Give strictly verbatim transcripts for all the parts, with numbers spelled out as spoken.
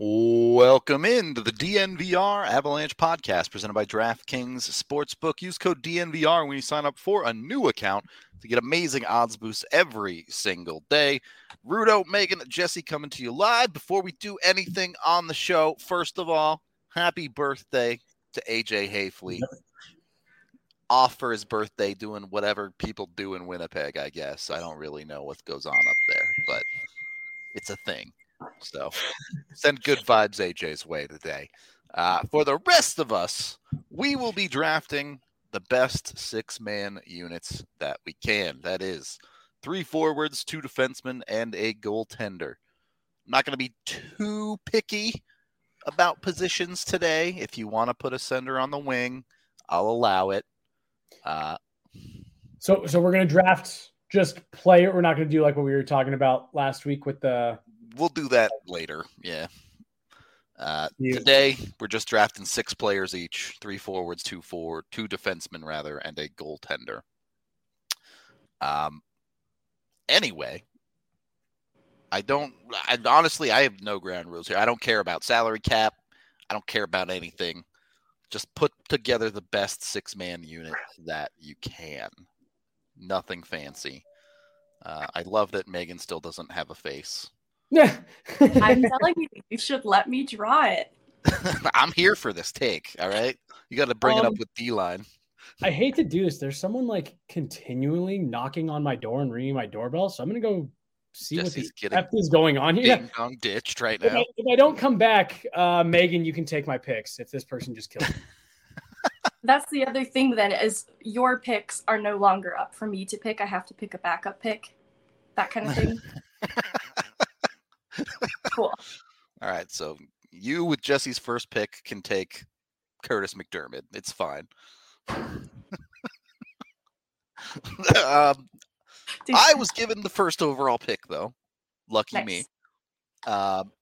Welcome in to the D N V R Avalanche podcast presented by DraftKings Sportsbook. Use code D N V R when you sign up for a new account to get amazing odds boosts every single day. Rudo, Megan, Jesse coming to you live. Before we do anything on the show, first of all, happy birthday to A J Hayfley. Yep. Off for his birthday doing whatever people do in Winnipeg, I guess. I don't really know what goes on up there, but it's a thing. So send good vibes A J's way today. Uh, for the rest of us, we will be drafting the best six-man units that we can. That is three forwards, two defensemen, and a goaltender. I'm not going to be too picky about positions today. If you want to put a center on the wing, I'll allow it. Uh, so, so we're going to draft just player. We're not going to do like what we were talking about last week with the. We'll do that later. Yeah. Uh, yeah. Today we're just drafting six players each: three forwards, two forward, two defensemen rather, and a goaltender. Um. Anyway, I don't. I honestly, I have no ground rules here. I don't care about salary cap. I don't care about anything. Just put together the best six-man unit that you can. Nothing fancy. Uh, I love that Megan still doesn't have a face. Yeah. I'm telling you, you should let me draw it. I'm here for this take, all right? You got to bring um, it up with D-line. I hate to do this. There's someone, like, continually knocking on my door and ringing my doorbell, so I'm going to go see Jesse's what the F is going on here. Ding-dong ditched right if now. I, if I don't come back, uh, Megan, you can take my picks if this person just killed me. That's the other thing, then, is your picks are no longer up for me to pick. I have to pick a backup pick, that kind of thing. Cool. All right, so you with Jesse's first pick can take Curtis McDermott. It's fine. um, I was given the first overall pick, though. Lucky nice. me. Um,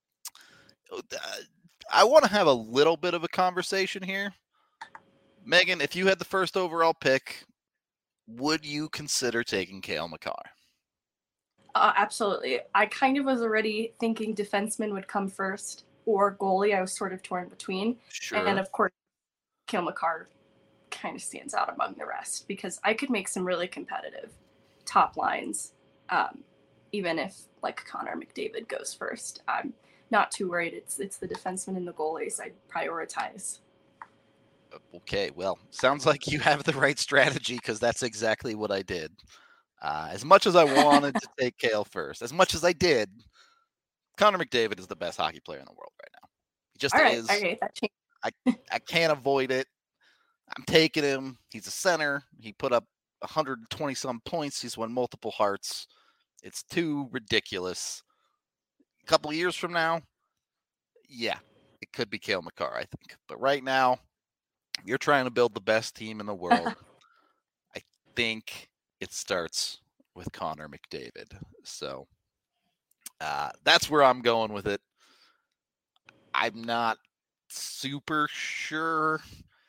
I want to have a little bit of a conversation here. Megan, if you had the first overall pick, would you consider taking Cale Makar? Uh, absolutely. I kind of was already thinking defenseman would come first or goalie. I was sort of torn between. Sure. And of course, Cale Makar kind of stands out among the rest because I could make some really competitive top lines. Um, even if like Connor McDavid goes first, I'm not too worried. It's, it's the defenseman and the goalies I prioritize. Okay. Well, sounds like you have the right strategy because that's exactly what I did. Uh, as much as I wanted to take Cale first, as much as I did, Connor McDavid is the best hockey player in the world right now. He just All right, is. okay, that changed. I, I can't avoid it. I'm taking him. He's a center. He put up one hundred twenty some points. He's won multiple Harts. It's too ridiculous. A couple of years from now, yeah, it could be Cale Makar, I think. But right now, you're trying to build the best team in the world. I think it starts with Connor McDavid. So uh, that's where I'm going with it. I'm not super sure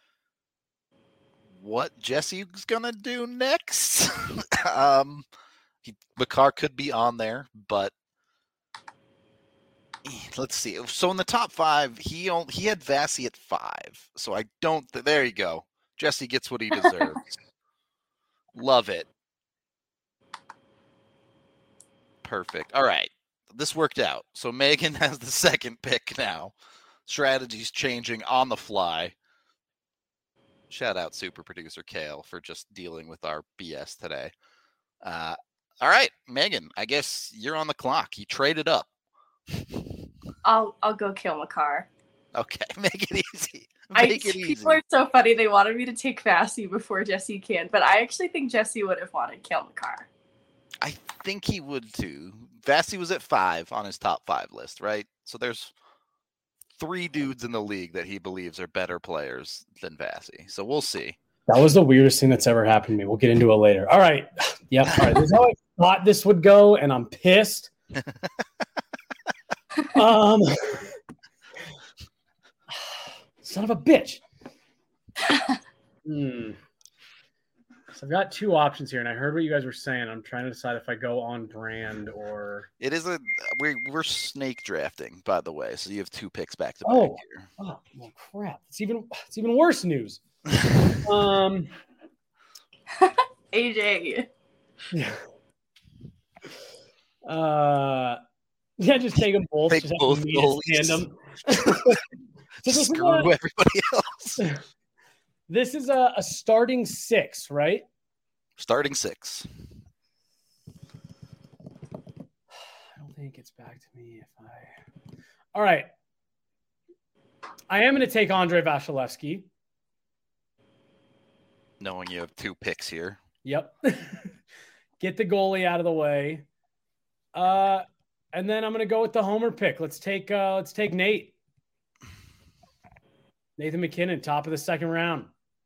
what Jesse's going to do next. um, he, Makar could be on there, but let's see. So in the top five, he only, he had Vasi at five. So I don't. Th- there you go. Jesse gets what he deserves. Love it. Perfect. All right. This worked out. So Megan has the second pick now. Strategies changing on the fly. Shout out super producer Cale for just dealing with our B S today. Uh, all right, Megan, I guess you're on the clock. You traded up. I'll I'll go Cale Makar. Okay, make it easy. Make I, it easy. People are so funny. They wanted me to take Vasi before Jesse can, but I actually think Jesse would have wanted Cale Makar. I think he would too. Vasi was at five on his top five list, right? So there's three dudes in the league that he believes are better players than Vasi. So we'll see. That was the weirdest thing that's ever happened to me. We'll get into it later. All right. Yep. All right. This is how I thought this would go, and I'm pissed. um, son of a bitch. hmm. So I've got two options here, and I heard what you guys were saying. I'm trying to decide if I go on brand or. It is a we're we're snake drafting, by the way. So you have two picks back to back oh. here. Oh, well, crap! It's even it's even worse news. um, A J. Yeah. Uh, yeah, just take them both. Take just both goalies. Them. So Screw a, everybody else. This is a, a starting six, right? Starting six. I don't think it's back to me if I. All right. I am going to take Andrei Vasilevsky. Knowing you have two picks here. Yep. Get the goalie out of the way. Uh, and then I'm going to go with the homer pick. Let's take uh, let's take Nate. Nathan MacKinnon, top of the second round.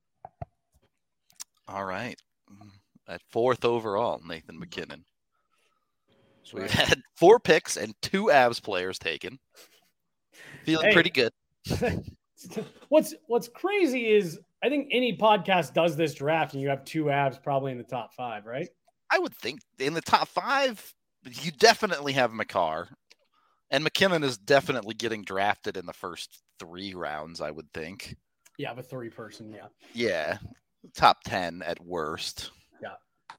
All right. At fourth overall, Nathan MacKinnon. So we've had four picks and two Avs players taken. Feeling hey. pretty good. what's what's crazy is I think any podcast does this draft and you have two Avs probably in the top five, right? I would think in the top five, you definitely have Makar. And MacKinnon is definitely getting drafted in the first three rounds, I would think. Yeah, the three person, yeah. Yeah. Top ten at worst. Yeah.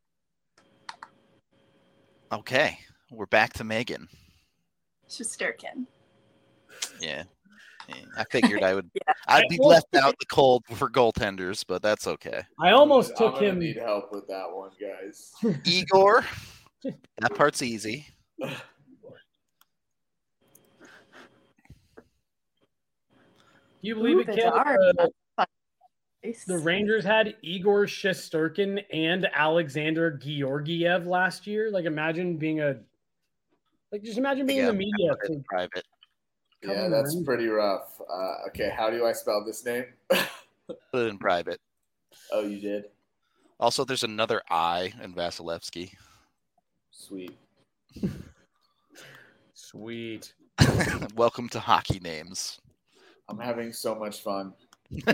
Okay. We're back to Megan. Shesterkin. Yeah. yeah. I figured I would yeah. I'd be left out the cold for goaltenders, but that's okay. I almost I'm took gonna him. Need help with that one, guys. Igor. That part's easy. Do you believe Ooh, it, Ken? Uh, the Rangers had Igor Shesterkin and Alexander Georgiev last year. Like, imagine being a like, just imagine being yeah, in the media. To private. Yeah, that's pretty rough. Uh, okay, how do I spell this name? Put it in private. Oh, you did? Also, there's another I in Vasilevsky. Sweet. Sweet. Welcome to hockey names. I'm having so much fun. uh,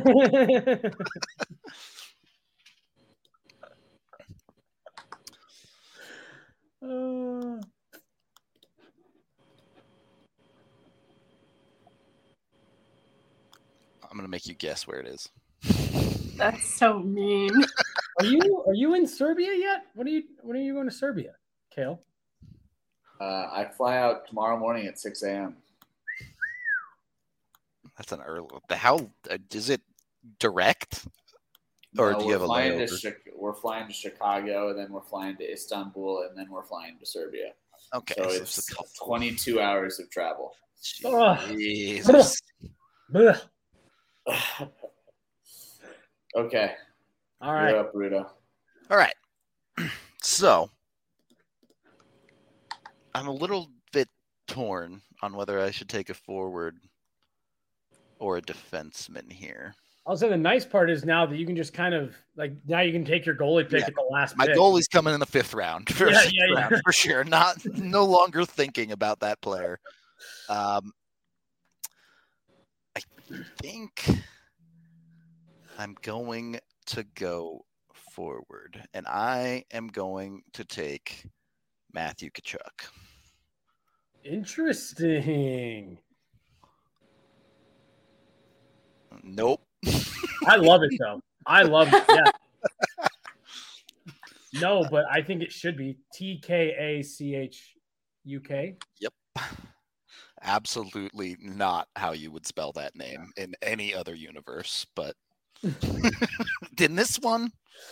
I'm gonna make you guess where it is. That's so mean. Are you are you in Serbia yet? What are you when are you going to Serbia, Kale? Uh, I fly out tomorrow morning at six a.m. That's an early. How is it direct? Or no, do you have a layover? To, we're flying to Chicago, and then we're flying to Istanbul, and then we're flying to Serbia. Okay, so, so it's, it's twenty-two hours of travel. Jesus. Okay. All right. You're up, Rudo. All right. So I'm a little bit torn on whether I should take a forward or a defenseman here. I'll say the nice part is now that you can just kind of like now you can take your goalie pick yeah. at the last. My pick. goalie's coming in the fifth round, for, yeah, yeah, yeah. round for sure. Not no longer thinking about that player. Um, I think I'm going to go forward, and I am going to take Matthew Tkachuk. Interesting. Nope. I love it though. I love it. Yeah. No, but I think it should be T K A C H U K. Yep. Absolutely not how you would spell that name in any other universe, but in this one.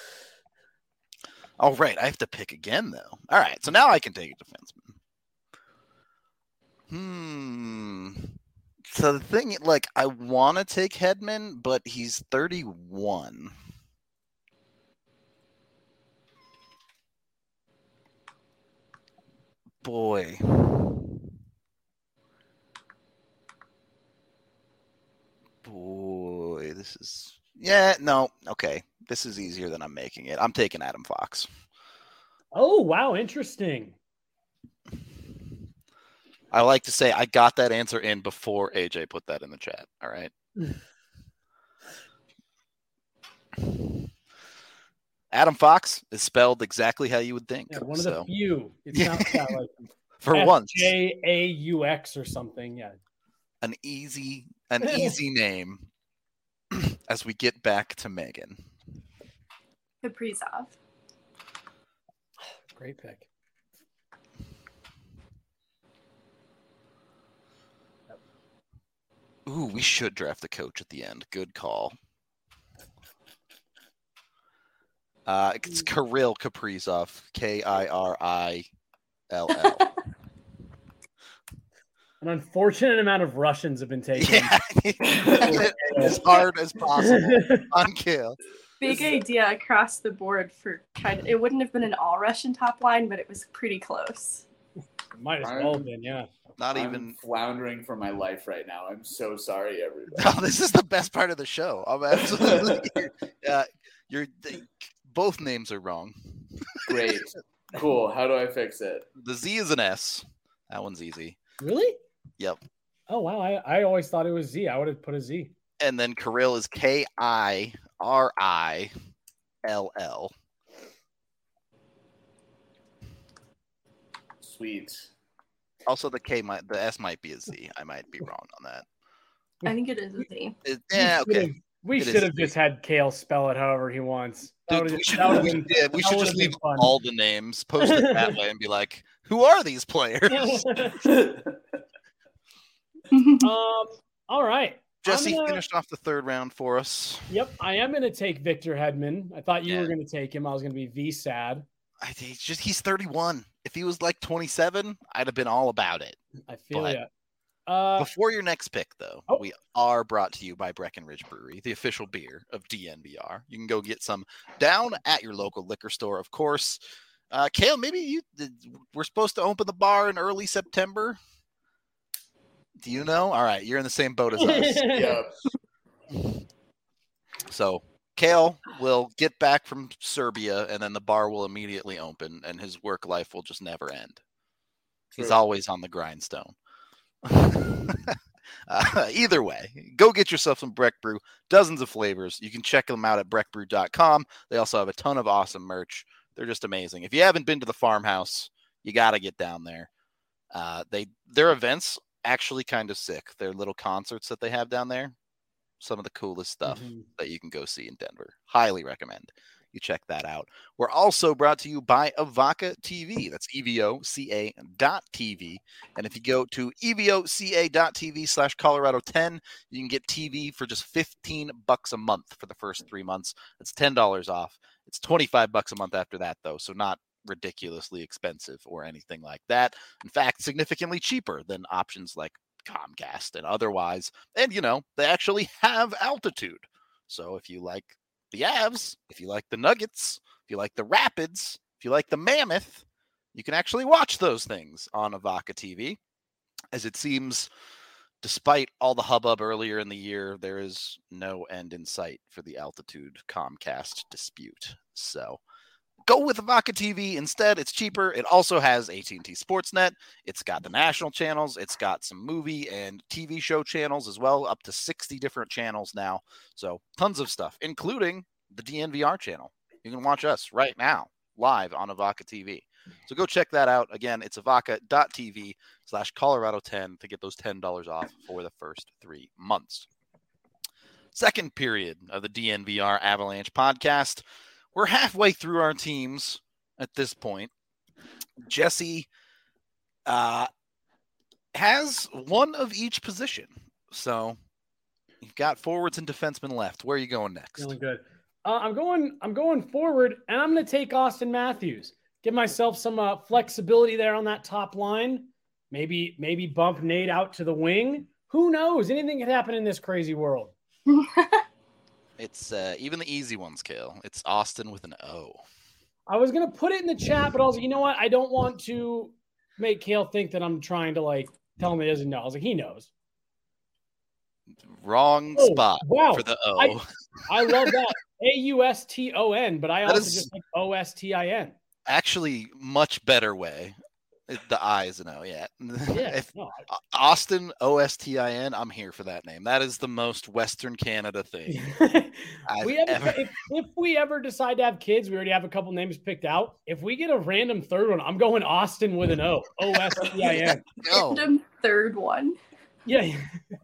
All right, I have to pick again though. All right, so now I can take a defenseman. Hmm. So the thing, like, I want to take Hedman, but he's thirty-one. Boy. Boy, this is... Yeah, no, okay. This is easier than I'm making it. I'm taking Adam Fox. Oh, wow, interesting. I like to say I got that answer in before A J put that in the chat. All right. Adam Fox is spelled exactly how you would think. Yeah, one so. of the few. It's not yeah, like for F once. J A U X or something. Yeah. An easy, an easy name as we get back to Megan. Kaprizov. Great pick. Ooh, we should draft the coach at the end. Good call. Uh, it's Kirill Kaprizov. K I R I L L. An unfortunate amount of Russians have been taken. Yeah. As hard as possible on Kale. Big idea across the board for kind of, it wouldn't have been an all Russian top line, but it was pretty close. It might as well have been, yeah. Not I'm even floundering for my life right now. I'm so sorry, everybody. No, this is the best part of the show. I'm absolutely. uh, you're they, both names are wrong. Great, cool. How do I fix it? The Z is an S. That one's easy. Really? Yep. Oh wow, I, I always thought it was Z. I would have put a Z. And then Kirill is K I R I L L. Sweet. Also, the K might, the S might be a Z. I might be wrong on that. I think it is a Z. It, yeah, We okay. should've- We It should is have just had Kale spell it however he wants. That Dude, would've- we should, that would've we, been- yeah, we that should would've just been leave fun. all the names, post it that way, and be like, "Who are these players?" um. All right. Jesse gonna- finished off the third round for us. Yep, I am going to take Victor Hedman. I thought you Yeah. were going to take him. I was going to be V sad. I think he's just he's thirty-one. If he was like twenty-seven, I'd have been all about it. I feel But- ya. Uh, Before your next pick, though, Oh. we are brought to you by Breckenridge Brewery, the official beer of D N V R. You can go get some down at your local liquor store, of course. Uh, Kale, maybe you we're supposed to open the bar in early September. Do you know? All right, you're in the same boat as us. Yep. So Kale will get back from Serbia, and then the bar will immediately open, and his work life will just never end. He's True. always on the grindstone. uh, either way, go get yourself some Breck Brew. Dozens of flavors. You can check them out at breck brew dot com. They also have a ton of awesome merch. They're just amazing. If you haven't been to the farmhouse, you got to get down there. Uh, they their events actually kind of sick. Their little concerts that they have down there, some of the coolest stuff Mhm. that you can go see in Denver. Highly recommend you check that out. We're also brought to you by Evoca T V. That's E V O C A dot T V. And if you go to E V O C A dot T V slash Colorado ten, you can get T V for just fifteen bucks a month for the first three months. That's ten dollars off. It's twenty-five bucks a month after that, though, so not ridiculously expensive or anything like that. In fact, significantly cheaper than options like Comcast and otherwise. And, you know, they actually have altitude. So if you like the Avs, if you like the Nuggets, if you like the Rapids, if you like the Mammoth, you can actually watch those things on Evoca T V. As it seems, despite all the hubbub earlier in the year, there is no end in sight for the altitude Comcast dispute. So go with Evoca T V instead. It's cheaper. It also has A T and T Sportsnet. It's got the national channels. It's got some movie and T V show channels as well, up to sixty different channels now. So tons of stuff, including the D N V R channel. You can watch us right now live on Evoca T V. So go check that out. Again, it's evoca dot T V slash Colorado ten to get those ten dollars off for the first three months. Second period of the D N V R Avalanche podcast. We're halfway through our teams at this point. Jesse uh, has one of each position. So you've got forwards and defensemen left. Where are you going next? Feeling good. Uh, I'm going. I'm going forward, and I'm going to take Austin Matthews. Give myself some uh, flexibility there on that top line. Maybe, maybe bump Nate out to the wing. Who knows? Anything could happen in this crazy world. It's uh, even the easy ones, Kale. It's Austin with an O. I was going to put it in the chat, but I was like, you know what? I don't want to make Kale think that I'm trying to like tell him he doesn't know. I was like, he knows. Wrong Oh, spot wow. for the O. I, I love that. A U S T O N, but I That also is- just like O S T I N. Actually, much better way. The I is an O, yeah. Yeah. If, no, I... Austin, O S T I N, I'm here for that name. That is the most Western Canada thing. we have ever... if, if we ever decide to have kids, we already have a couple names picked out. If we get a random third one, I'm going Austin with an O. O S T I N. Random third one. Yeah.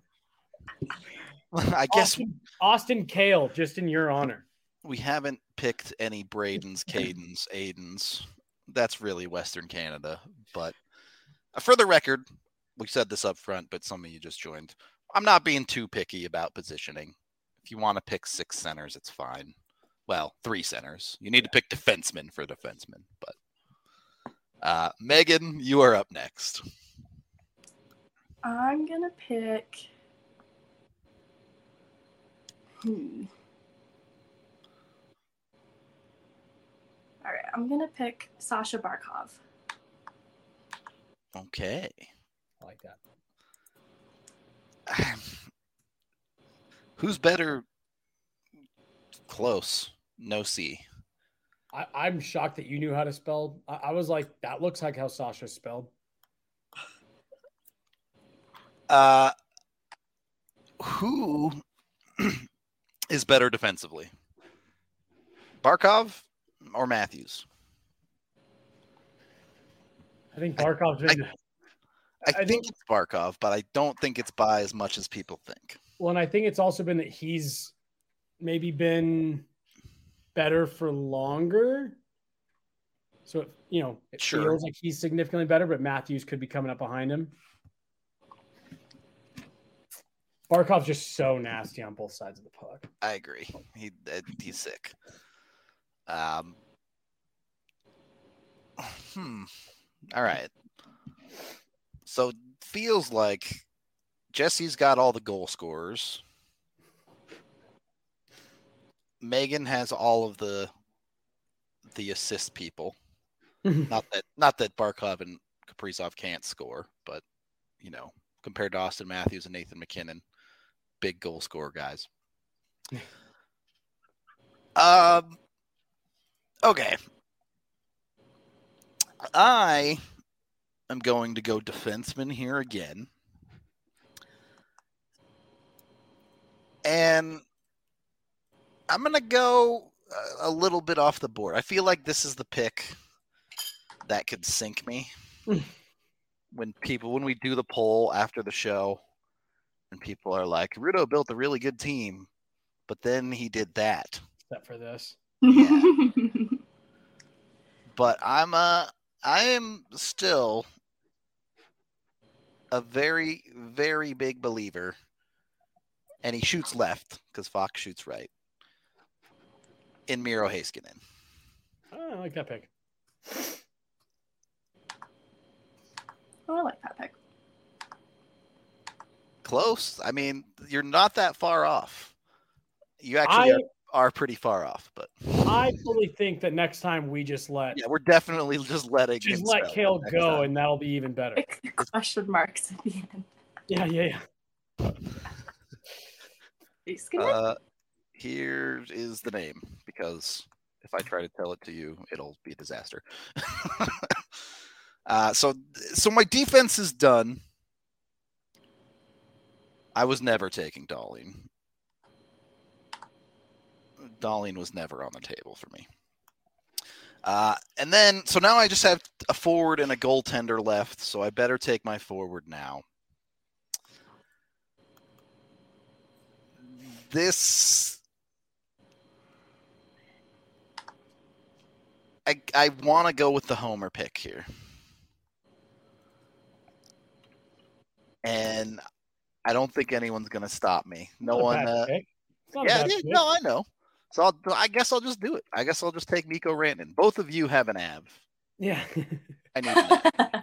I guess Austin, Austin Kale, just in your honor. We haven't picked any Bradens, Cadens, Aidens. That's really Western Canada. But for the record, we said this up front, but some of you just joined. I'm not being too picky about positioning. If you want to pick six centers, it's fine. Well, three centers. You need to pick defensemen for defensemen. But uh, Megan, you are up next. I'm going to pick... Hmm. All right, I'm going to pick Sasha Barkov. Okay. I like that. Who's better? Close. No C. I, I'm shocked that you knew how to spell. I, I was like, that looks like how Sasha's spelled. Uh, who is better defensively? Barkov or Matthews? I think Barkov's been. I, I, I think, think it's Barkov, but I don't think it's by as much as people think. Well, and I think it's also been that he's maybe been better for longer. So, it, you know, it sure. feels like he's significantly better, but Matthews could be coming up behind him. Barkov's just so nasty on both sides of the puck. I agree. He he's sick. Um. Hmm. All right. So feels like Jesse's got all the goal scorers. Megan has all of the the assist people. not that not that Barkov and Kaprizov can't score, but you know, compared to Austin Matthews and Nathan McKinnon, big goal scorer guys. um. Okay. I am going to go defenseman here again. And I'm going to go a little bit off the board. I feel like this is the pick that could sink me. when people, when we do the poll after the show, and people are like, Rudo built a really good team, but then he did that. Except for this. Yeah. But I'm a, I am still a very, very big believer, and he shoots left because Fox shoots right, in Miro Heiskanen. Oh, I like that pick. Oh, I like that pick. Close. I mean, you're not that far off. You actually I, are, are pretty far off, but I fully think that next time we just let yeah, we're definitely just letting just let Kale go, time. And that'll be even better. Question marks at the end. Yeah, yeah, yeah. Uh, here is the name, because if I try to tell it to you, it'll be a disaster. uh, so, so my defense is done. I was never taking Dahlin. Dahlin was never on the table for me. Uh, and then, so now I just have a forward and a goaltender left, so I better take my forward now. This, I I want to go with the homer pick here. And I don't think anyone's going to stop me. No one. Uh, yeah, yeah no, I know. So I'll, I guess I'll just do it. I guess I'll just take Mikko Rantanen. Both of you have an A V. Yeah. I need an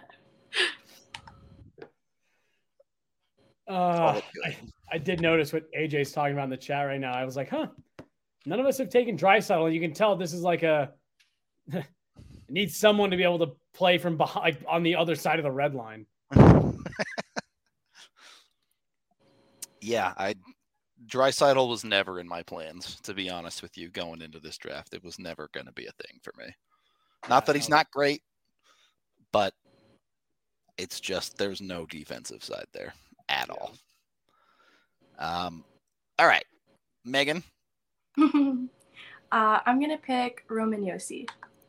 uh, I, I did notice what A J's talking about in the chat right now. I was like, huh, none of us have taken Draisaitl. You can tell this is like a – needs someone to be able to play from behind, like on the other side of the red line. Yeah, I – Draisaitl was never in my plans, to be honest with you, going into this draft. It was never going to be a thing for me. Not that he's not great, but It's just there's no defensive side there at all. Um, all right, Megan. uh, I'm gonna pick Roman Josi.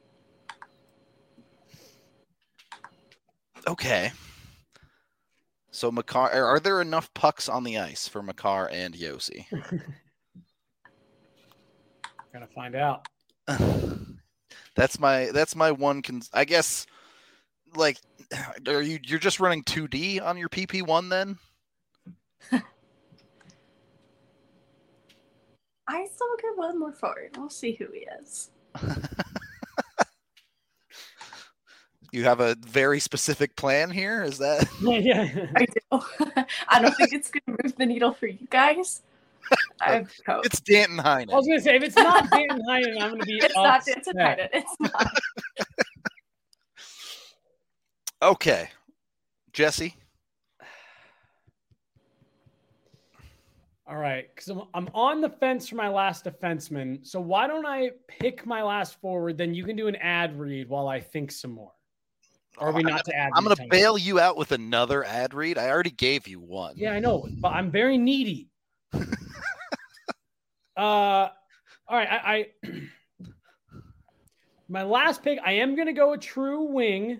Okay. So Makar, are there enough pucks on the ice for Makar and Josi? Gonna find out. that's my that's my one. Cons- I guess, like, are you you're just running two D on your P P one then? I still get one more forward. We'll see who he is. You have a very specific plan here? Is that? Yeah, yeah. I do. I don't think it's going to move the needle for you guys. I have hope. It's Danton Heinen. I was going to say, if it's not Danton Heinen, I'm going to be It's not Danton Heinen. It's not. Okay. Jesse? All right, because I'm, I'm on the fence for my last defenseman. So why don't I pick my last forward? Then you can do an ad read while I think some more. Or are we not to add? I'm going to bail you out with another ad read. I already gave you one. Yeah, I know, but I'm very needy. uh, all right, I, I my last pick. I am going to go a true wing.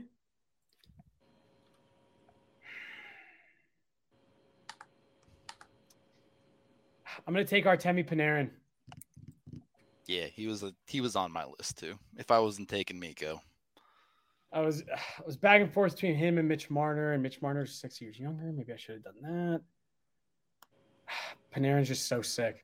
I'm going to take Artemi Panarin. Yeah, he was a he was on my list too. If I wasn't taking Mikko. I was I was back and forth between him and Mitch Marner, and Mitch Marner's six years younger. Maybe I should have done that. Panarin's just so sick.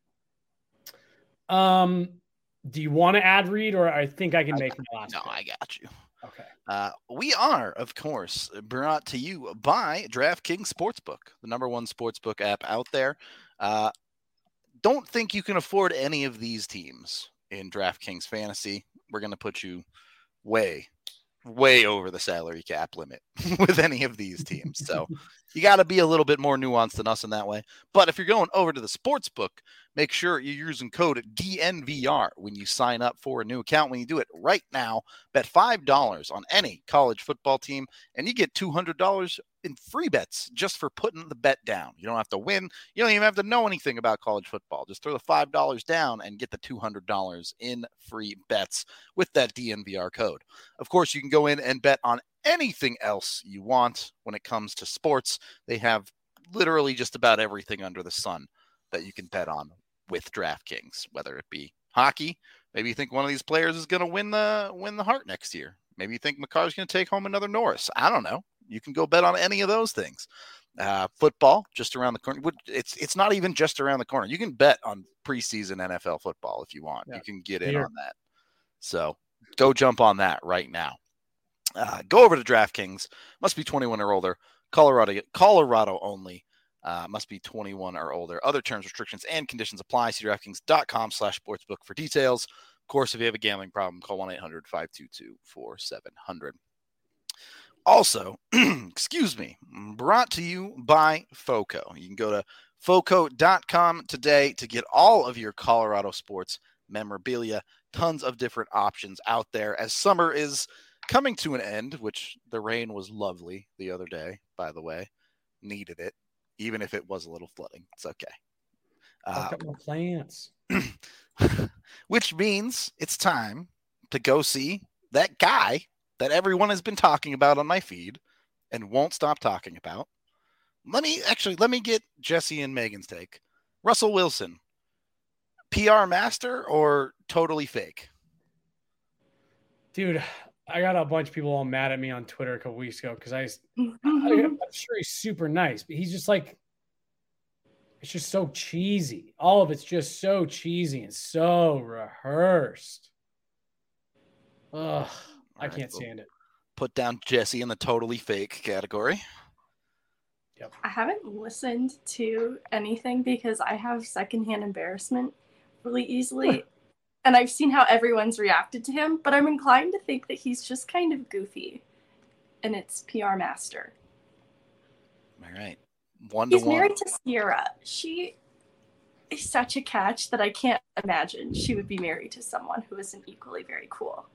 Um, do you want to add read, or I think I can make my last? No, pick? I got you. Okay. Uh, we are, of course, brought to you by DraftKings Sportsbook, the number one sportsbook app out there. Uh, don't think you can afford any of these teams in DraftKings Fantasy. We're going to put you way, way over the salary cap limit with any of these teams. So you got to be a little bit more nuanced than us in that way. But if you're going over to the sportsbook, make sure you're using code D N V R when you sign up for a new account. When you do it right now, bet five dollars on any college football team, and you get two hundred dollars in free bets just for putting the bet down. You don't have to win. You don't even have to know anything about college football. Just throw the five dollars down and get the two hundred dollars in free bets with that D N V R code. Of course, you can go in and bet on anything else you want when it comes to sports. They have literally just about everything under the sun that you can bet on with DraftKings, whether it be hockey. Maybe you think one of these players is going to win the win the Hart next year. Maybe you think Makar's going to take home another Norris. I don't know. You can go bet on any of those things. Uh, football, just around the corner. It's it's not even just around the corner. You can bet on preseason N F L football if you want. Yeah. You can get in Here. on that. So go jump on that right now. Uh, go over to DraftKings. Must be twenty-one or older. Colorado, Colorado only. Uh, must be twenty-one or older. Other terms, restrictions, and conditions apply. See DraftKings.com slash sportsbook for details. Of course, if you have a gambling problem, call one eight hundred five two two four seven zero zero. Also, excuse me, brought to you by FOCO. You can go to foco dot com today to get all of your Colorado sports memorabilia. Tons of different options out there as summer is coming to an end, which the rain was lovely the other day, by the way. Needed it. Even if it was a little flooding, it's okay. Uh, Look at my plants. Which means it's time to go see that guy that everyone has been talking about on my feed and won't stop talking about. Let me actually, let me get Jesse and Megan's take. Russell Wilson, P R master or totally fake? Dude, I got a bunch of people all mad at me on Twitter a couple weeks ago because I, I, I'm sure he's super nice, but he's just like, it's just so cheesy. All of it's just so cheesy and so rehearsed. Ugh, I can't stand it. Put down Jesse in the totally fake category. Yep. I haven't listened to anything because I have secondhand embarrassment really easily. And I've seen how everyone's reacted to him, but I'm inclined to think that he's just kind of goofy. And it's P R master. All right. One he's to one. He's married to Sierra. She is such a catch that I can't imagine she would be married to someone who isn't equally very cool.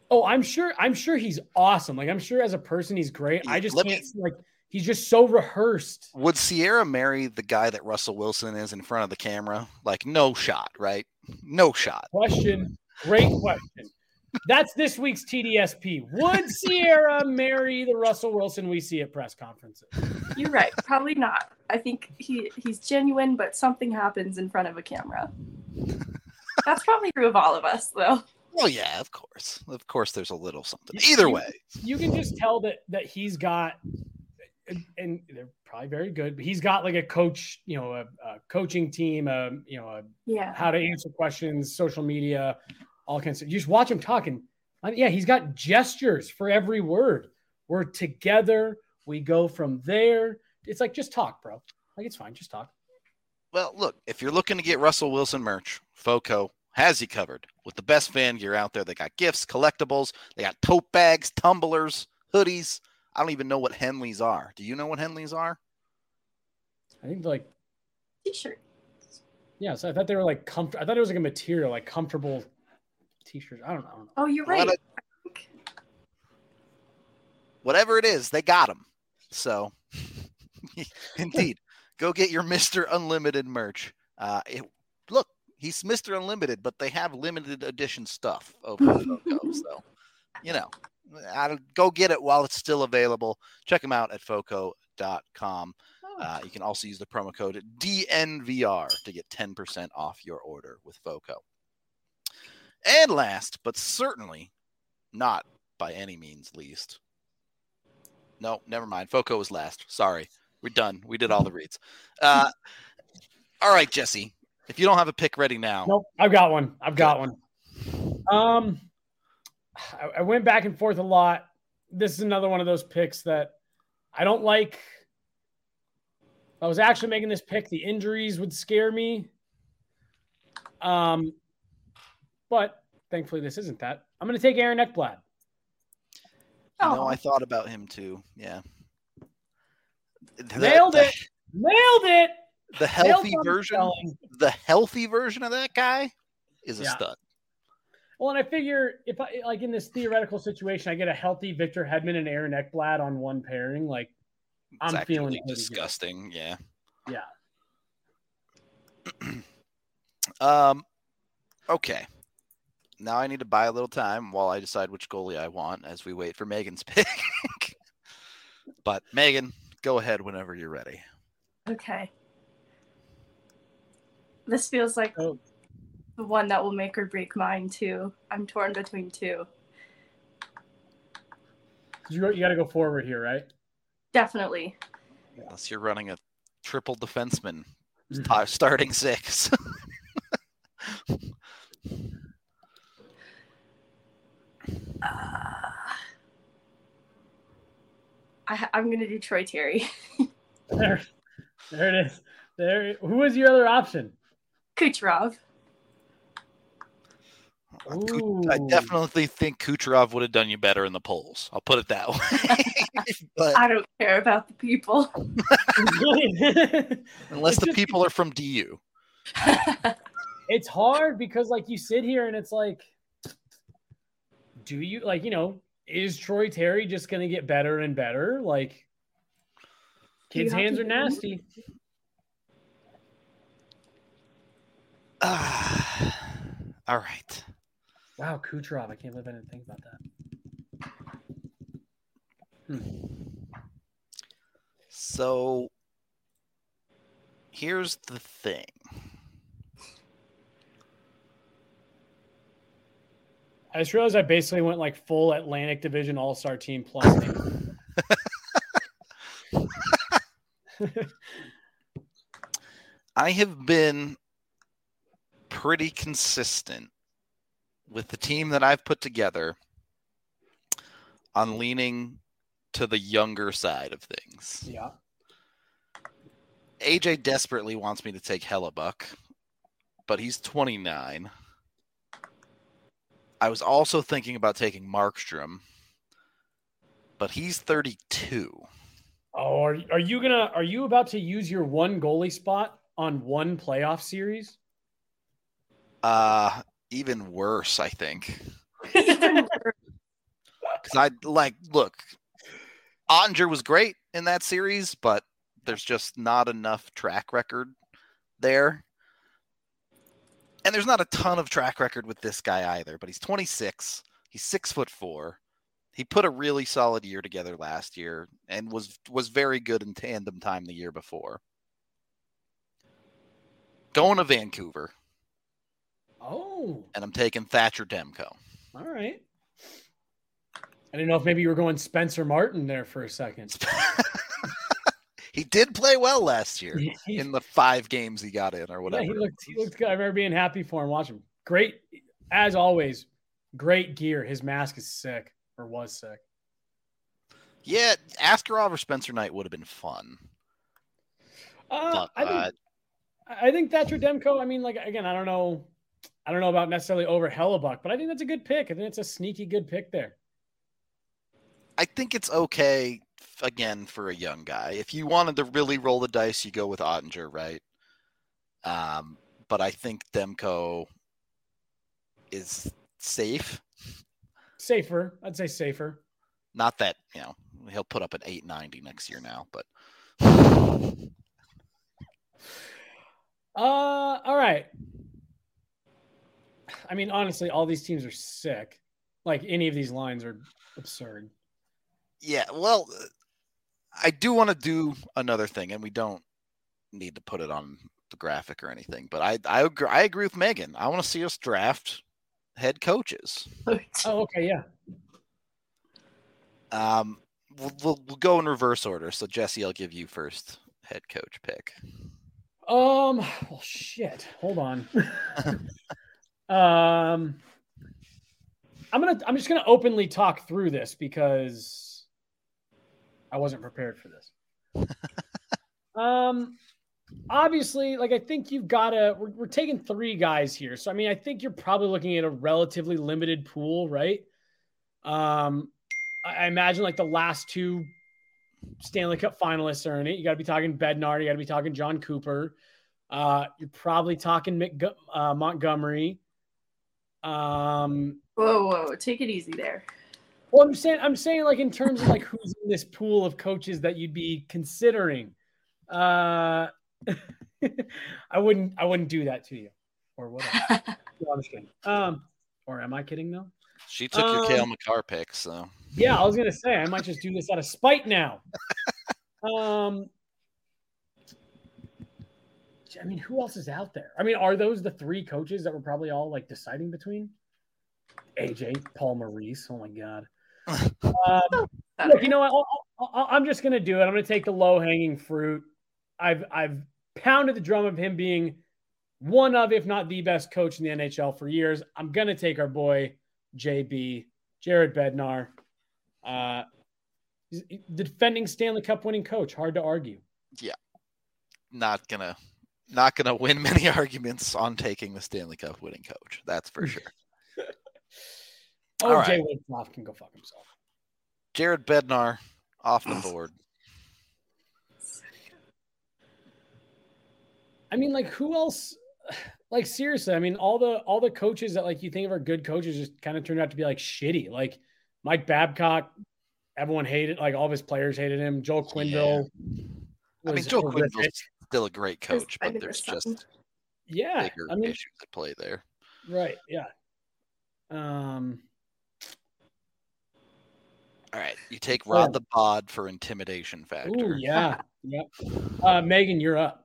Oh, I'm sure. I'm sure he's awesome. Like I'm sure as a person, he's great. I just Let can't me- like he's just so rehearsed. Would Sierra marry the guy that Russell Wilson is in front of the camera? Like, no shot, right? No shot. Question. Great question. That's this week's T D S P. Would Sierra marry the Russell Wilson we see at press conferences? You're right. Probably not. I think he, he's genuine, but something happens in front of a camera. That's probably true of all of us, though. Well, yeah, of course. Of course, there's a little something. Either you, way. You can just tell that that he's got, and they're probably very good, but he's got like a coach, you know, a, a coaching team, a, you know, a, Yeah. how to answer questions, social media, all kinds of. You just watch him talking. I mean, yeah, he's got gestures for every word. We're together. We go from there. It's like, just talk, bro. Like, it's fine. Just talk. Well, look, if you're looking to get Russell Wilson merch, FOCO has you covered with the best fan gear out there. They got gifts, collectibles. They got tote bags, tumblers, hoodies. I don't even know what Henleys are. Do you know what Henleys are? I think like T-shirt. Yeah, so I thought they were like comfort. I thought it was like a material, like comfortable t-shirts. I don't know. Oh, you're right. What a- Whatever it is, they got them. So, indeed, go get your Mister Unlimited merch. Uh, it, look, he's Mister Unlimited, but they have limited edition stuff over at FOCO. So, you know, I, go get it while it's still available. Check them out at foco dot com. Uh, you can also use the promo code D N V R to get ten percent off your order with FOCO. And last, but certainly not by any means least. No, never mind. FOCO was last. Sorry. We're done. We did all the reads. Uh, all right, Jesse. If you don't have a pick ready now. Nope, I've got one. I've got one. Um, I, I went back and forth a lot. This is another one of those picks that I don't like. If I was actually making this pick, the injuries would scare me. Um, but thankfully this isn't that. I'm going to take Aaron Ekblad. You know, I thought about him too. Yeah. The, Nailed the, it. Nailed it. The healthy Nailed version, spelling. the healthy version of that guy is a Yeah. stud. Well, and I figure if I like in this theoretical situation, I get a healthy Victor Hedman and Aaron Ekblad on one pairing, like It's I'm feeling actually pretty good. disgusting. Yeah. Yeah. Um. Okay. Now I need to buy a little time while I decide which goalie I want as we wait for Megan's pick. But Megan, go ahead whenever you're ready. Okay. This feels like Oh. the one that will make or break mine too. I'm torn between two. You, you got to go forward here, right? Definitely. Unless you're running a triple defenseman Mhm. sta- starting six. Uh, I, I'm going to do Troy Terry. There, there it is. There. Who was your other option? Kucherov. Ooh. I definitely think Kucherov would have done you better in the polls. I'll put it that way. But I don't care about the people. unless It's the just- people are from D U. It's hard because like you sit here and it's like, do you like, you know, is Troy Terry just going to get better and better? Like kids' You have hands to are do- nasty. Ah, all right. Wow. Kucherov. I can't believe I didn't think about that. Hmm. So here's the thing. I just realized I basically went like full Atlantic Division All-Star team plus. I have been pretty consistent with the team that I've put together on leaning to the younger side of things. Yeah. A J desperately wants me to take Hellebuck, but he's twenty-nine. I was also thinking about taking Markstrom, but he's thirty-two. Oh, are, are you gonna? Are you about to use your one goalie spot on one playoff series? Uh, even worse, I think. Because I like look, Ottinger was great in that series, but there's just not enough track record there. And there's not a ton of track record with this guy either, but he's twenty-six. He's six foot four. He put a really solid year together last year and was was very good in tandem time the year before. Going to Vancouver. Oh. And I'm taking Thatcher Demko. All right. I didn't know if maybe you were going Spencer Martin there for a second. He did play well last year in the five games he got in or whatever. Yeah, he looked he looked good. I remember being happy for him watching him. Great, as always, great gear. His mask is sick, or was sick. Yeah, Askarov or Spencer Knight would have been fun. Uh, but, I think uh, I think Thatcher Demko, I mean, like, again, I don't know. I don't know about necessarily over Hellebuck, but I think that's a good pick. I think it's a sneaky good pick there. I think it's okay, again, for a young guy. If you wanted to really roll the dice, you go with Ottinger, right? Um, but I think Demko is safe. Safer. I'd say safer. Not that, you know, he'll put up an eight ninety next year now, but. Uh, all right. I mean, honestly, all these teams are sick. Like, any of these lines are absurd. Yeah, well, I do want to do another thing, and we don't need to put it on the graphic or anything, but I I agree, I agree with Megan. I want to see us draft head coaches. Oh, okay, yeah. Um, we'll, we'll, we'll go in reverse order. So, Jesse, I'll give you first head coach pick. Um, well, shit. Hold on. um, I'm gonna. I'm just gonna openly talk through this because I wasn't prepared for this. um, obviously, like I think you've got to. We're, we're taking three guys here, so I mean, I think you're probably looking at a relatively limited pool, right? Um, I, I imagine like the last two Stanley Cup finalists are in it. You got to be talking Bednar. You got to be talking John Cooper. Uh, you're probably talking McG- uh, Montgomery. Um, whoa, whoa, take it easy there. Well, I'm saying, I'm saying, like in terms of like who's in this pool of coaches that you'd be considering. Uh, I wouldn't, I wouldn't do that to you, or whatever. No, I'm just kidding. Um, or am I kidding though? She took um, your Cale Makar pick, so yeah, I was gonna say I might just do this out of spite now. um, I mean, who else is out there? I mean, are those the three coaches that we're probably all like deciding between? A J, Paul Maurice. Oh my God. Um, look, you know what? I'll, I'll, I'm just gonna do it. I'm gonna take the low hanging fruit. I've I've pounded the drum of him being one of, if not the best coach in the N H L for years. I'm gonna take our boy J B, Jared Bednar. Uh, he's the defending Stanley Cup winning coach. Hard to argue. Yeah, not gonna not gonna win many arguments on taking the Stanley Cup winning coach. That's for sure. Oh, All Jay right. Woodcroft can go fuck himself. Jared Bednar off the board. I mean, like, who else? Like, seriously, I mean, all the all the coaches that like you think of are good coaches just kind of turned out to be like shitty. Like Mike Babcock, everyone hated. Like all of his players hated him. Joel Quenneville. Yeah. I mean, Joel Quenneville's still a great coach, but there's just yeah, bigger I mean, issues at play there. Right. Yeah. Um. All right, you take Rod the Bod for intimidation factor. Ooh, yeah. Yep. Uh, Megan, you're up.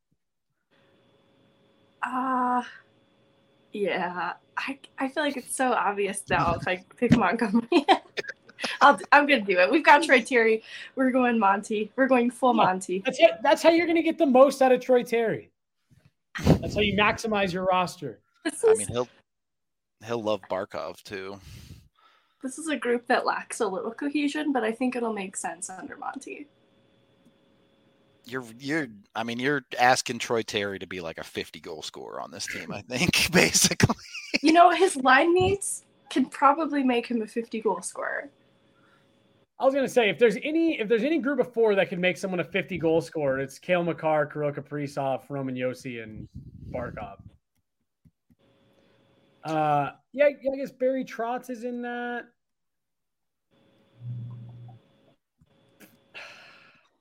Uh, yeah. I I feel like it's so obvious now if I pick Montgomery. I'll, I'm going to do it. We've got Troy Terry. We're going Monty. We're going full yeah, Monty. That's it. That's how you're going to get the most out of Troy Terry. That's how you maximize your roster. Is, I mean, he'll he'll love Barkov too. This is a group that lacks a little cohesion, but I think it'll make sense under Monty. You're you're I mean, you're asking Troy Terry to be like a fifty goal scorer on this team, I think, basically. You know, his line mates can probably make him a fifty goal scorer. I was gonna say if there's any if there's any group of four that can make someone a fifty goal scorer, it's Cale Makar, Kirill Kaprizov, Roman Josi, and Barkov. Uh, yeah, yeah, I guess Barry Trotz is in that.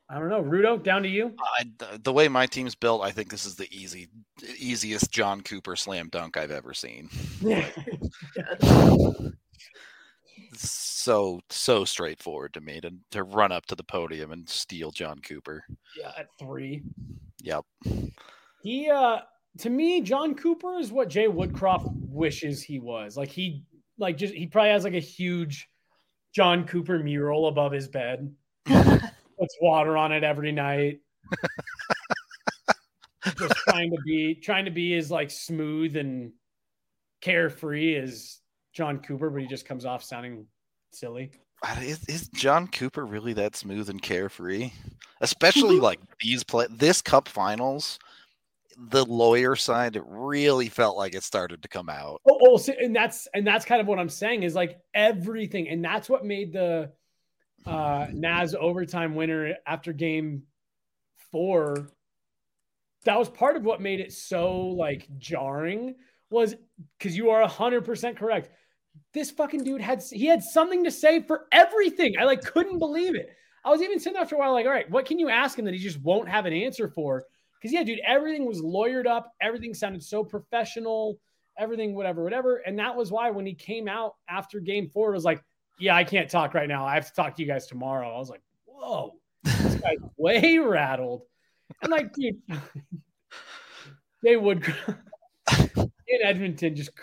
I don't know. Rudo, down to you. I, the way my team's built, I think this is the easy, easiest John Cooper slam dunk I've ever seen. Yeah. so so straightforward to me to, to run up to the podium and steal John Cooper. Yeah, at three. Yep. He uh to me, John Cooper is what Jay Woodcroft wishes he was. Like he like just he probably has like a huge John Cooper mural above his bed. Puts water on it every night. Just trying to be trying to be as like smooth and carefree as John Cooper, but he just comes off sounding silly. Is, is John Cooper really that smooth and carefree? Especially like these play this Cup Finals, the lawyer side, it really felt like it started to come out. Oh, oh so, and that's and that's kind of what I'm saying is like everything, and that's what made the uh, Naz overtime winner after game four. That was part of what made it so like jarring was because you are a hundred percent correct. This fucking dude had, he had something to say for everything. I like couldn't believe it. I was even sitting there after a while, like, all right, what can you ask him that he just won't have an answer for? Because yeah, dude, everything was lawyered up. Everything sounded so professional, everything, whatever, whatever. And that was why when he came out after game four, it was like, yeah, I can't talk right now. I have to talk to you guys tomorrow. I was like, whoa, this guy's way rattled. And like, dude, they would in Edmonton just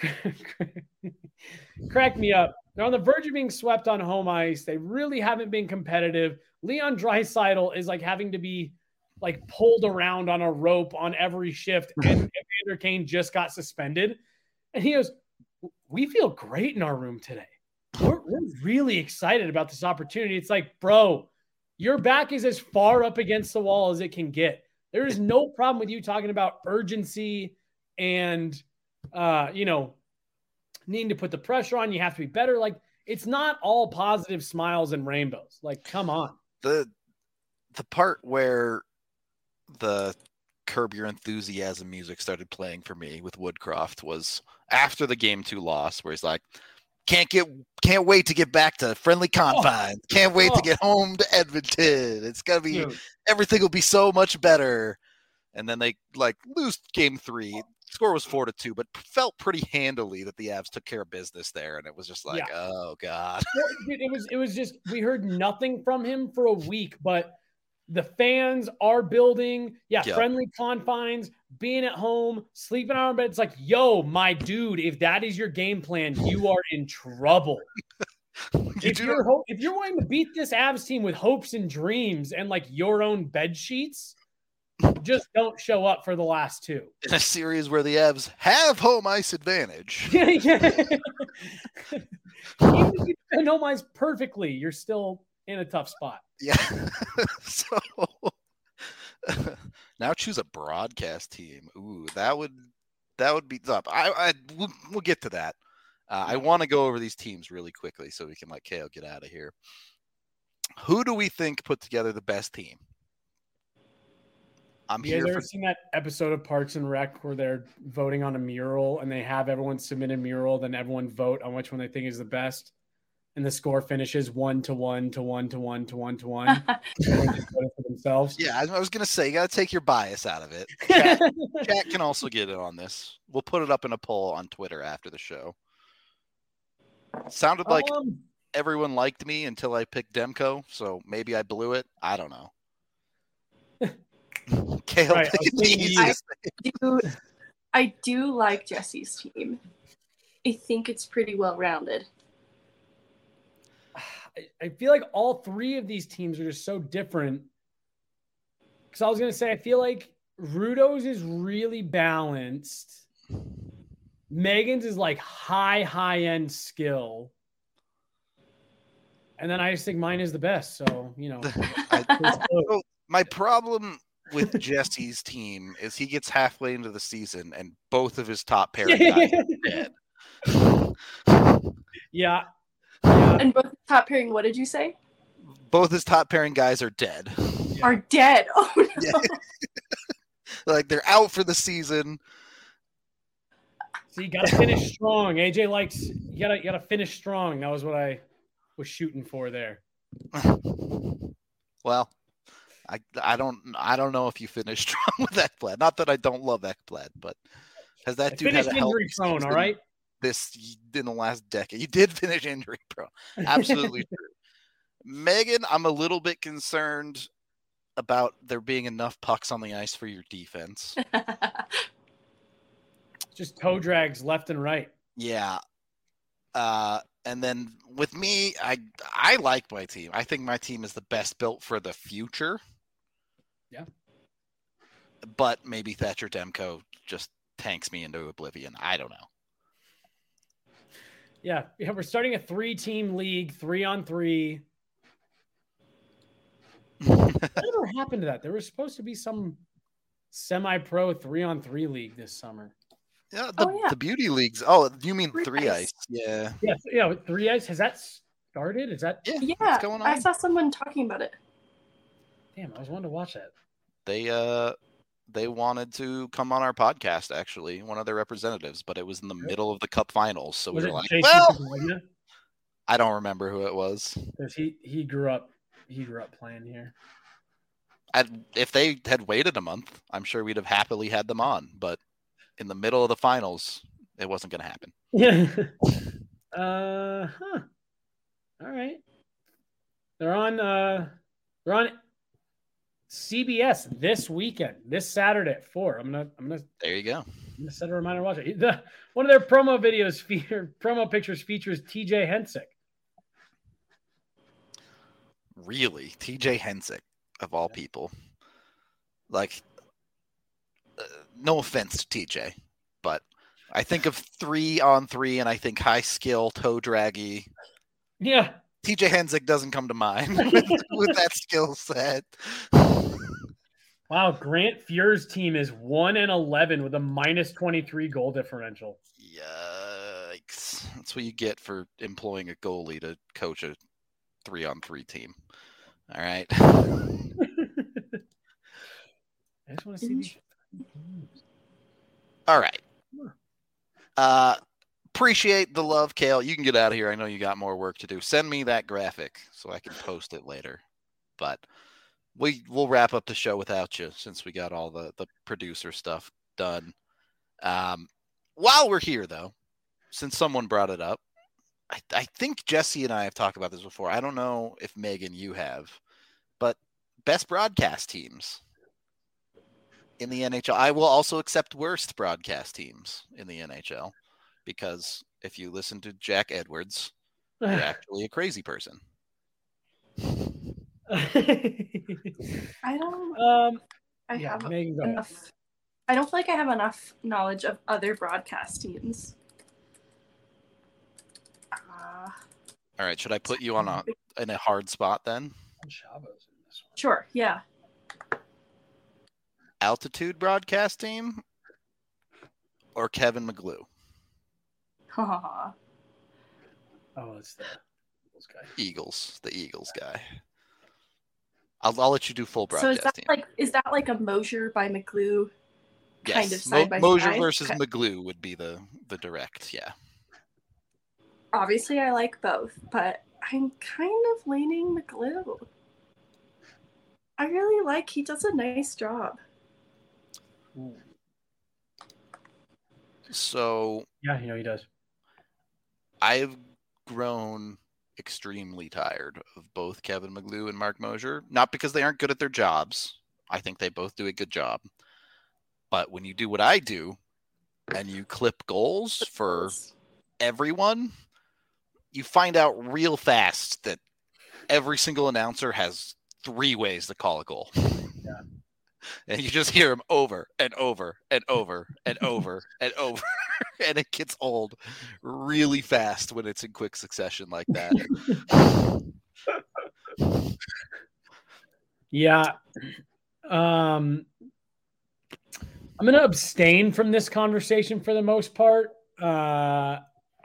cracked me up. They're on the verge of being swept on home ice. They really haven't been competitive. Leon Draisaitl is like having to be like pulled around on a rope on every shift. And Evander Kane just got suspended. And he goes, we feel great in our room today. We're, we're really excited about this opportunity. It's like, bro, your back is as far up against the wall as it can get. There is no problem with you talking about urgency and, uh, you know, needing to put the pressure on. You have to be better. Like, it's not all positive smiles and rainbows. Like, come on. The the part where the Curb Your Enthusiasm music started playing for me with Woodcroft was after the game two loss, where he's like, Can't get, can't wait to get back to friendly confines. Oh. Can't wait oh. to get home to Edmonton. It's gonna be Dude. Everything will be so much better. And then they like lose game three. Score was four to two, but felt pretty handily that the Avs took care of business there. And it was just like, yeah. oh god. Dude, it was it was just we heard nothing from him for a week, but the fans are building. Yeah, yep. Friendly confines, being at home, sleeping on our bed. It's like, yo, my dude, if that is your game plan, you are in trouble. you if, you're ho- if you're wanting to beat this Avs team with hopes and dreams and like your own bed sheets, just don't show up for the last two. In a series where the Avs have home ice advantage. yeah, yeah. Even if you defend home ice perfectly, you're still in a tough spot. Yeah. so now choose a broadcast team. Ooh, that would that would be tough. I, I we'll, we'll get to that. Uh, I want to go over these teams really quickly so we can let Kale get out of here. Who do we think put together the best team? I'm you here. guys ever for... seen that episode of Parks and Rec where they're voting on a mural and they have everyone submit a mural, then everyone vote on which one they think is the best? And the score finishes one to one to one to one to one to one. for themselves. Yeah, I was gonna say you gotta take your bias out of it. Chat, chat can also get in on this. We'll put it up in a poll on Twitter after the show. Sounded like um, everyone liked me until I picked Demko, so maybe I blew it. I don't know. Kale, right, I, do, I do like Jesse's team. I think it's pretty well rounded. I feel like all three of these teams are just so different. Because I was going to say, I feel like Rudo's is really balanced. Megan's is like high, high end skill. And then I just think mine is the best. So, you know. I, so my problem with Jesse's team is he gets halfway into the season and both of his top pairing guys are dead. Yeah. Yeah. And both top pairing, what did you say? Both his top pairing guys are dead. Yeah. Are dead. Oh no. Yeah. Like they're out for the season. So you gotta finish strong. A J likes you gotta you gotta finish strong. That was what I was shooting for there. Well, I I don't I don't know if you finished strong with Ekblad. Not that I don't love Ekblad, but has that I dude had a injury prone? All right. This in the last decade, you did finish injury prone. Absolutely true. Megan, I'm a little bit concerned about there being enough pucks on the ice for your defense. Just toe drags left and right. Yeah. Uh, and then with me, I I like my team. I think my team is the best built for the future. Yeah. But maybe Thatcher Demko just tanks me into oblivion. I don't know. Yeah, yeah, we're starting a three-team league, three on three. Whatever happened to that? There was supposed to be some semi-pro three-on-three league this summer. Yeah, the, oh, yeah. the beauty leagues. Oh, you mean three, three ice. ice? Yeah. Yeah, yeah, three ice. Has that started? Is that yeah? Yeah, what's going on? I saw someone talking about it. Damn, I was wanting to watch that. They uh, they wanted to come on our podcast. Actually, one of their representatives, but it was in the middle of the Cup Finals, so was we were like, J C "Well, Paglia? I don't remember who it was." Because he he grew up he grew up playing here. I'd, if they had waited a month, I'm sure we'd have happily had them on. But in the middle of the finals, it wasn't going to happen. Yeah. uh huh. All right. They're on. Uh, they're on C B S this weekend, this Saturday at four. I'm gonna. I'm gonna. There you go. I'm gonna set a reminder to watch it. The, one of their promo videos, feature, promo pictures features T J Hensick. Really, T J Hensick of all people. Like, uh, no offense to T J, but I think of three on three, and I think high skill, toe draggy. Yeah. T J Hensick doesn't come to mind with, with that skill set. Wow, Grant Fuhr's team is one and eleven with a minus twenty-three goal differential. Yikes! That's what you get for employing a goalie to coach a three-on-three team. All right. I just want to see these. All right. Uh. Appreciate the love, Kale. You can get out of here. I know you got more work to do. Send me that graphic so I can post it later. But we we'll wrap up the show without you since we got all the, the producer stuff done. Um, while we're here, though, since someone brought it up, I, I think Jesse and I have talked about this before. I don't know if Megan, you have, but best broadcast teams in the N H L. I will also accept worst broadcast teams in the N H L. Because if you listen to Jack Edwards, you're actually a crazy person. I don't. Um, I yeah, have Megan, go enough. ahead. I don't feel like I have enough knowledge of other broadcast teams. Uh, All right, should I put you on a in a hard spot then? Sure. Yeah. Altitude broadcast team or Kevin McGlue? oh, it's the Eagles guy. Eagles, the Eagles guy. I'll I'll let you do full broadcast. So is that team. like is that like a Mosier by McGlue yes. kind of side Mo- by Mosier side? versus Okay. McGlue would be the the direct, yeah. Obviously, I like both, but I'm kind of leaning McGlue. I really like. He does a nice job. Ooh. So Yeah, you know he does. I've grown extremely tired of both Kevin McGlue and Mark Mosier. Not because they aren't good at their jobs. I think they both do a good job. But when you do what I do and you clip goals for everyone, you find out real fast that every single announcer has three ways to call a goal. Yeah. And you just hear them over and over and over and over and over. And it gets old really fast when it's in quick succession like that. Yeah. Um, I'm going to abstain from this conversation for the most part. Uh,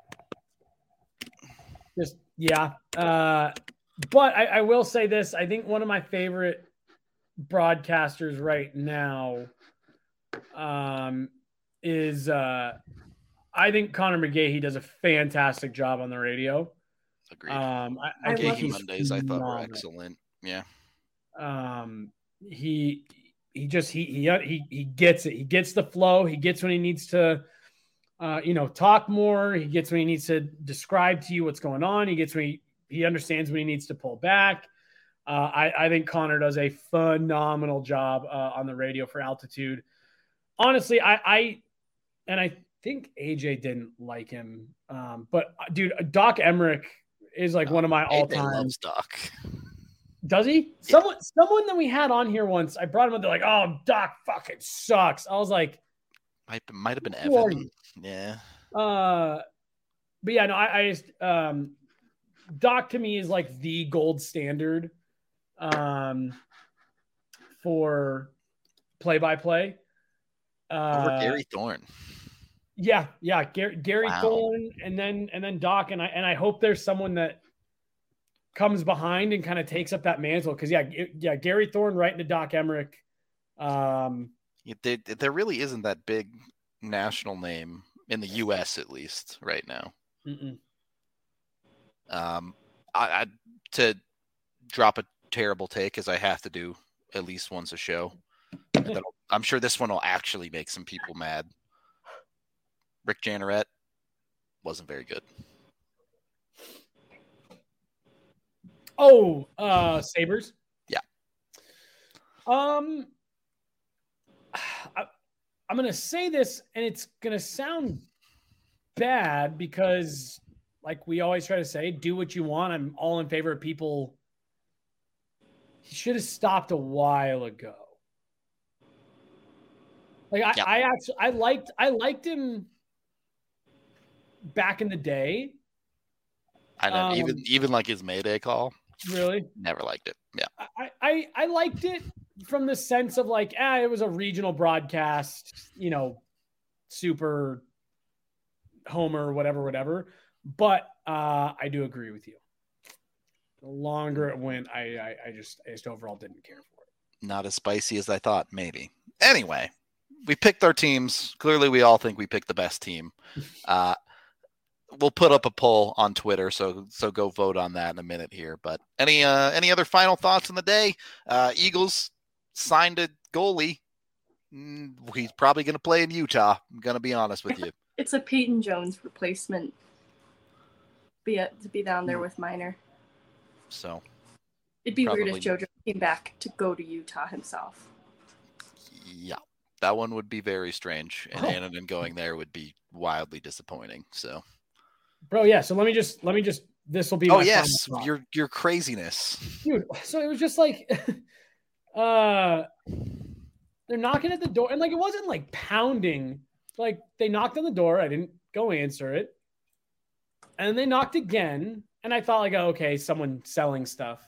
just, yeah. Uh, but I, I will say this. I think one of my favorite broadcasters right now um, is uh, I think Connor McGahey does a fantastic job on the radio. Agreed. Um, I, I I think McGahey he's Mondays I thought were phenomenal. excellent. Yeah. Um, he he just he he he he gets it. He gets the flow. He gets when he needs to, uh, you know, talk more. He gets when he needs to describe to you what's going on. He gets when he he understands when he needs to pull back. Uh, I I think Connor does a phenomenal job uh, on the radio for Altitude. Honestly, I I and I think A J didn't like him, um, but dude, Doc Emmerich is like oh, one of my all time. Loves Doc. Does he? Yeah. Someone, someone that we had on here once, I brought him up. They're like, "Oh, Doc fucking sucks." I was like, might might have been Evan. Yeah. Uh, but yeah, no, I, I just um, Doc to me is like the gold standard, um, for play by play. Over Gary Thorne. Yeah, yeah, Gary, Gary wow. Thorne, and then and then Doc, and I and I hope there's someone that comes behind and kind of takes up that mantle because yeah, it, yeah, Gary Thorne right into Doc Emmerich. Um, yeah, there, there really isn't that big national name in the U S at least right now. Mm-mm. Um, I, I to drop a terrible take as I have to do at least once a show. I'm sure this one will actually make some people mad. Rick Janneret wasn't very good. Oh, uh, Sabres? Yeah. Um, I, I'm going to say this, and it's going to sound bad because, like we always try to say, do what you want. I'm all in favor of people. He should have stopped a while ago. Like I, yeah. I actually, I liked, I liked him back in the day. I know, um, even even like his Mayday call. Really? Never liked it. Yeah. I, I, I liked it from the sense of like, ah, it was a regional broadcast, you know, super homer, whatever, whatever. But uh, I do agree with you. The longer it went, I, I, I just I just overall didn't care for it. Not as spicy as I thought, maybe. Anyway, we picked our teams. Clearly, we all think we picked the best team. Uh, we'll put up a poll on Twitter, so so go vote on that in a minute here. But any uh, any other final thoughts on the day? Uh, Eagles signed a goalie. He's probably going to play in Utah. I'm going to be honest with you. It's a Peyton Jones replacement. Be a, to be down there with Minor. So it'd be probably weird if JoJo came back to go to Utah himself. Yeah, that one would be very strange, and oh. Annanen going there would be wildly disappointing. So, bro, yeah. So let me just let me just this will be. Oh my yes, your your craziness, dude. So it was just like, uh, they're knocking at the door, and like it wasn't like pounding. Like they knocked on the door, I didn't go answer it, and they knocked again. And I thought like, oh, okay, someone selling stuff.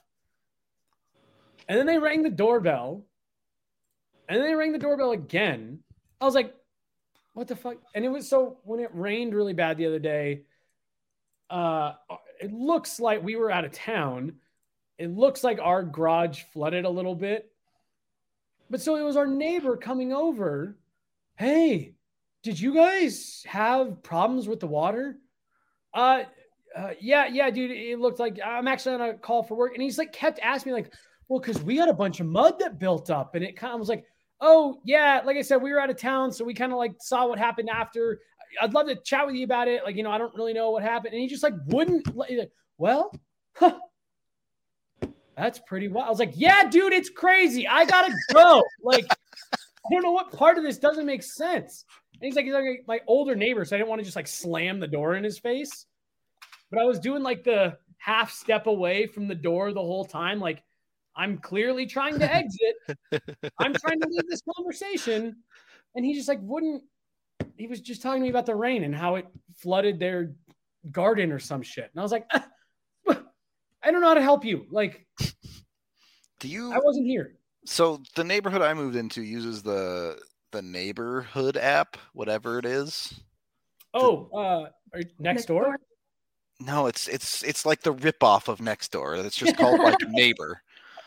And then they rang the doorbell. And then they rang the doorbell again. I was like, what the fuck? And it was so when it rained really bad the other day, uh, it looks like we were out of town. It looks like our garage flooded a little bit. But so it was our neighbor coming over. Hey, did you guys have problems with the water? Uh, Uh, yeah, yeah, dude. It looked like I'm actually on a call for work, and he's like kept asking me like, "Well, because we had a bunch of mud that built up," and it kind of was like, "Oh yeah," like I said, we were out of town, so we kind of like saw what happened after. I'd love to chat with you about it. Like, you know, I don't really know what happened, and he just like wouldn't. Like, well, huh, that's pretty wild. I was like, "Yeah, dude, it's crazy. I gotta go." Like, I don't know what part of this doesn't make sense. And he's like, he's like my older neighbor, so I didn't want to just like slam the door in his face. But I was doing like the half step away from the door the whole time. Like I'm clearly trying to exit. I'm trying to leave this conversation. And he just like wouldn't, he was just telling me about the rain and how it flooded their garden or some shit. And I was like, ah, I don't know how to help you. Like, do you, I wasn't here. So the neighborhood I moved into uses the, the neighborhood app, whatever it is. Oh, uh, next, next door? door? No, it's it's it's like the ripoff of Nextdoor. It's just called like Neighbor.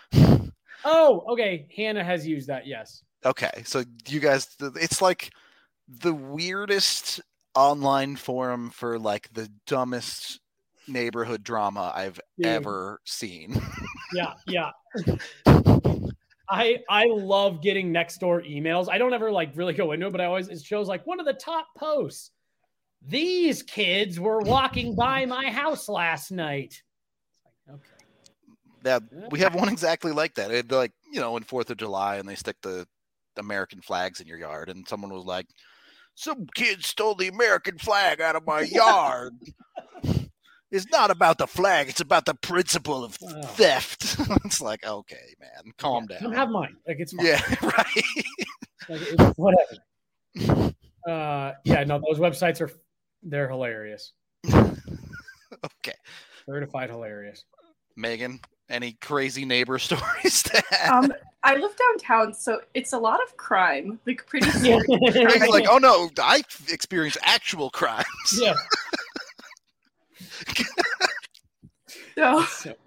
Oh, okay. Hannah has used that. Yes. Okay, so you guys, it's like the weirdest online forum for like the dumbest neighborhood drama I've yeah. ever seen. Yeah, yeah. I I love getting Nextdoor emails. I don't ever like really go into it, but I always, it shows like one of the top posts. These kids were walking by my house last night. Okay. Yeah, we have one exactly like that. It'd be like, you know, in fourth of July and they stick the American flags in your yard and someone was like, some kid stole the American flag out of my yard. It's not about the flag. It's about the principle of oh. theft. It's like, okay, man, calm yeah, down. Don't have mine. Like, it's fine. Yeah, right. Like, it's whatever. Uh, yeah, no, those websites are, they're hilarious. Okay. Certified hilarious. Megan, any crazy neighbor stories to add? Um, I live downtown, so it's a lot of crime. Like, pretty scary. He's like, oh no, I experience actual crimes. Yeah. So,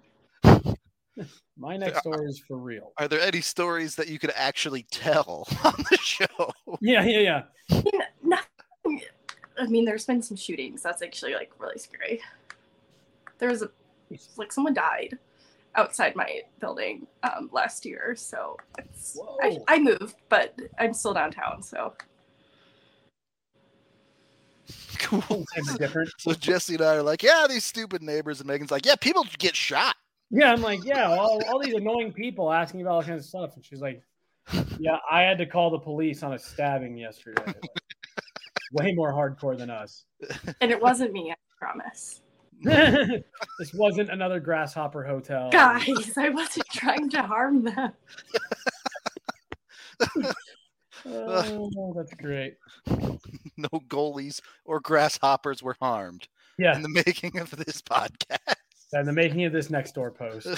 my next door is for real. Are there any stories that you could actually tell on the show? Yeah, yeah, yeah. I mean, nothing. I mean, there's been some shootings. That's actually like really scary. There was a like someone died outside my building um, last year, so it's, I, I moved, but I'm still downtown. So cool. Different. So Jesse and I are like, yeah, these stupid neighbors, and Megan's like, yeah, people get shot. Yeah, I'm like, yeah, all, all these annoying people asking about all kinds of stuff, and she's like, yeah, I had to call the police on a stabbing yesterday. Like, way more hardcore than us. And it wasn't me, I promise. This wasn't another Grasshopper Hotel. Guys, I wasn't trying to harm them. Oh, that's great. No goalies or grasshoppers were harmed. Yeah. In the making of this podcast. And the making of this Nextdoor post.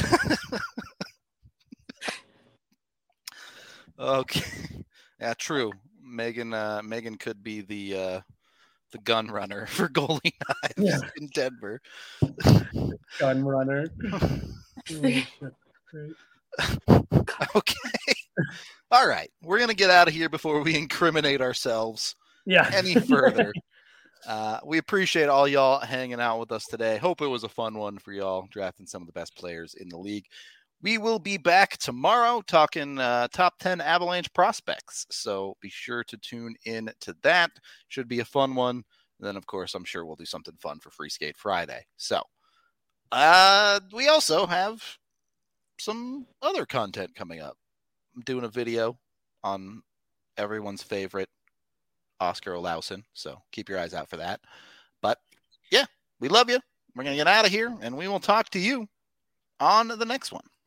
Okay. Yeah, true. Megan uh, Megan could be the uh, the gun runner for Goalie Knives yeah. in Denver. Gun runner. Okay. All right. We're going to get out of here before we incriminate ourselves yeah. any further. uh, we appreciate all y'all hanging out with us today. Hope it was a fun one for y'all, drafting some of the best players in the league. We will be back tomorrow talking uh, top ten Avalanche prospects. So be sure to tune in to that. Should be a fun one. And then, of course, I'm sure we'll do something fun for Free Skate Friday. So uh, we also have some other content coming up. I'm doing a video on everyone's favorite Oscar Olausson. So keep your eyes out for that. But yeah, we love you. We're going to get out of here and we will talk to you on the next one.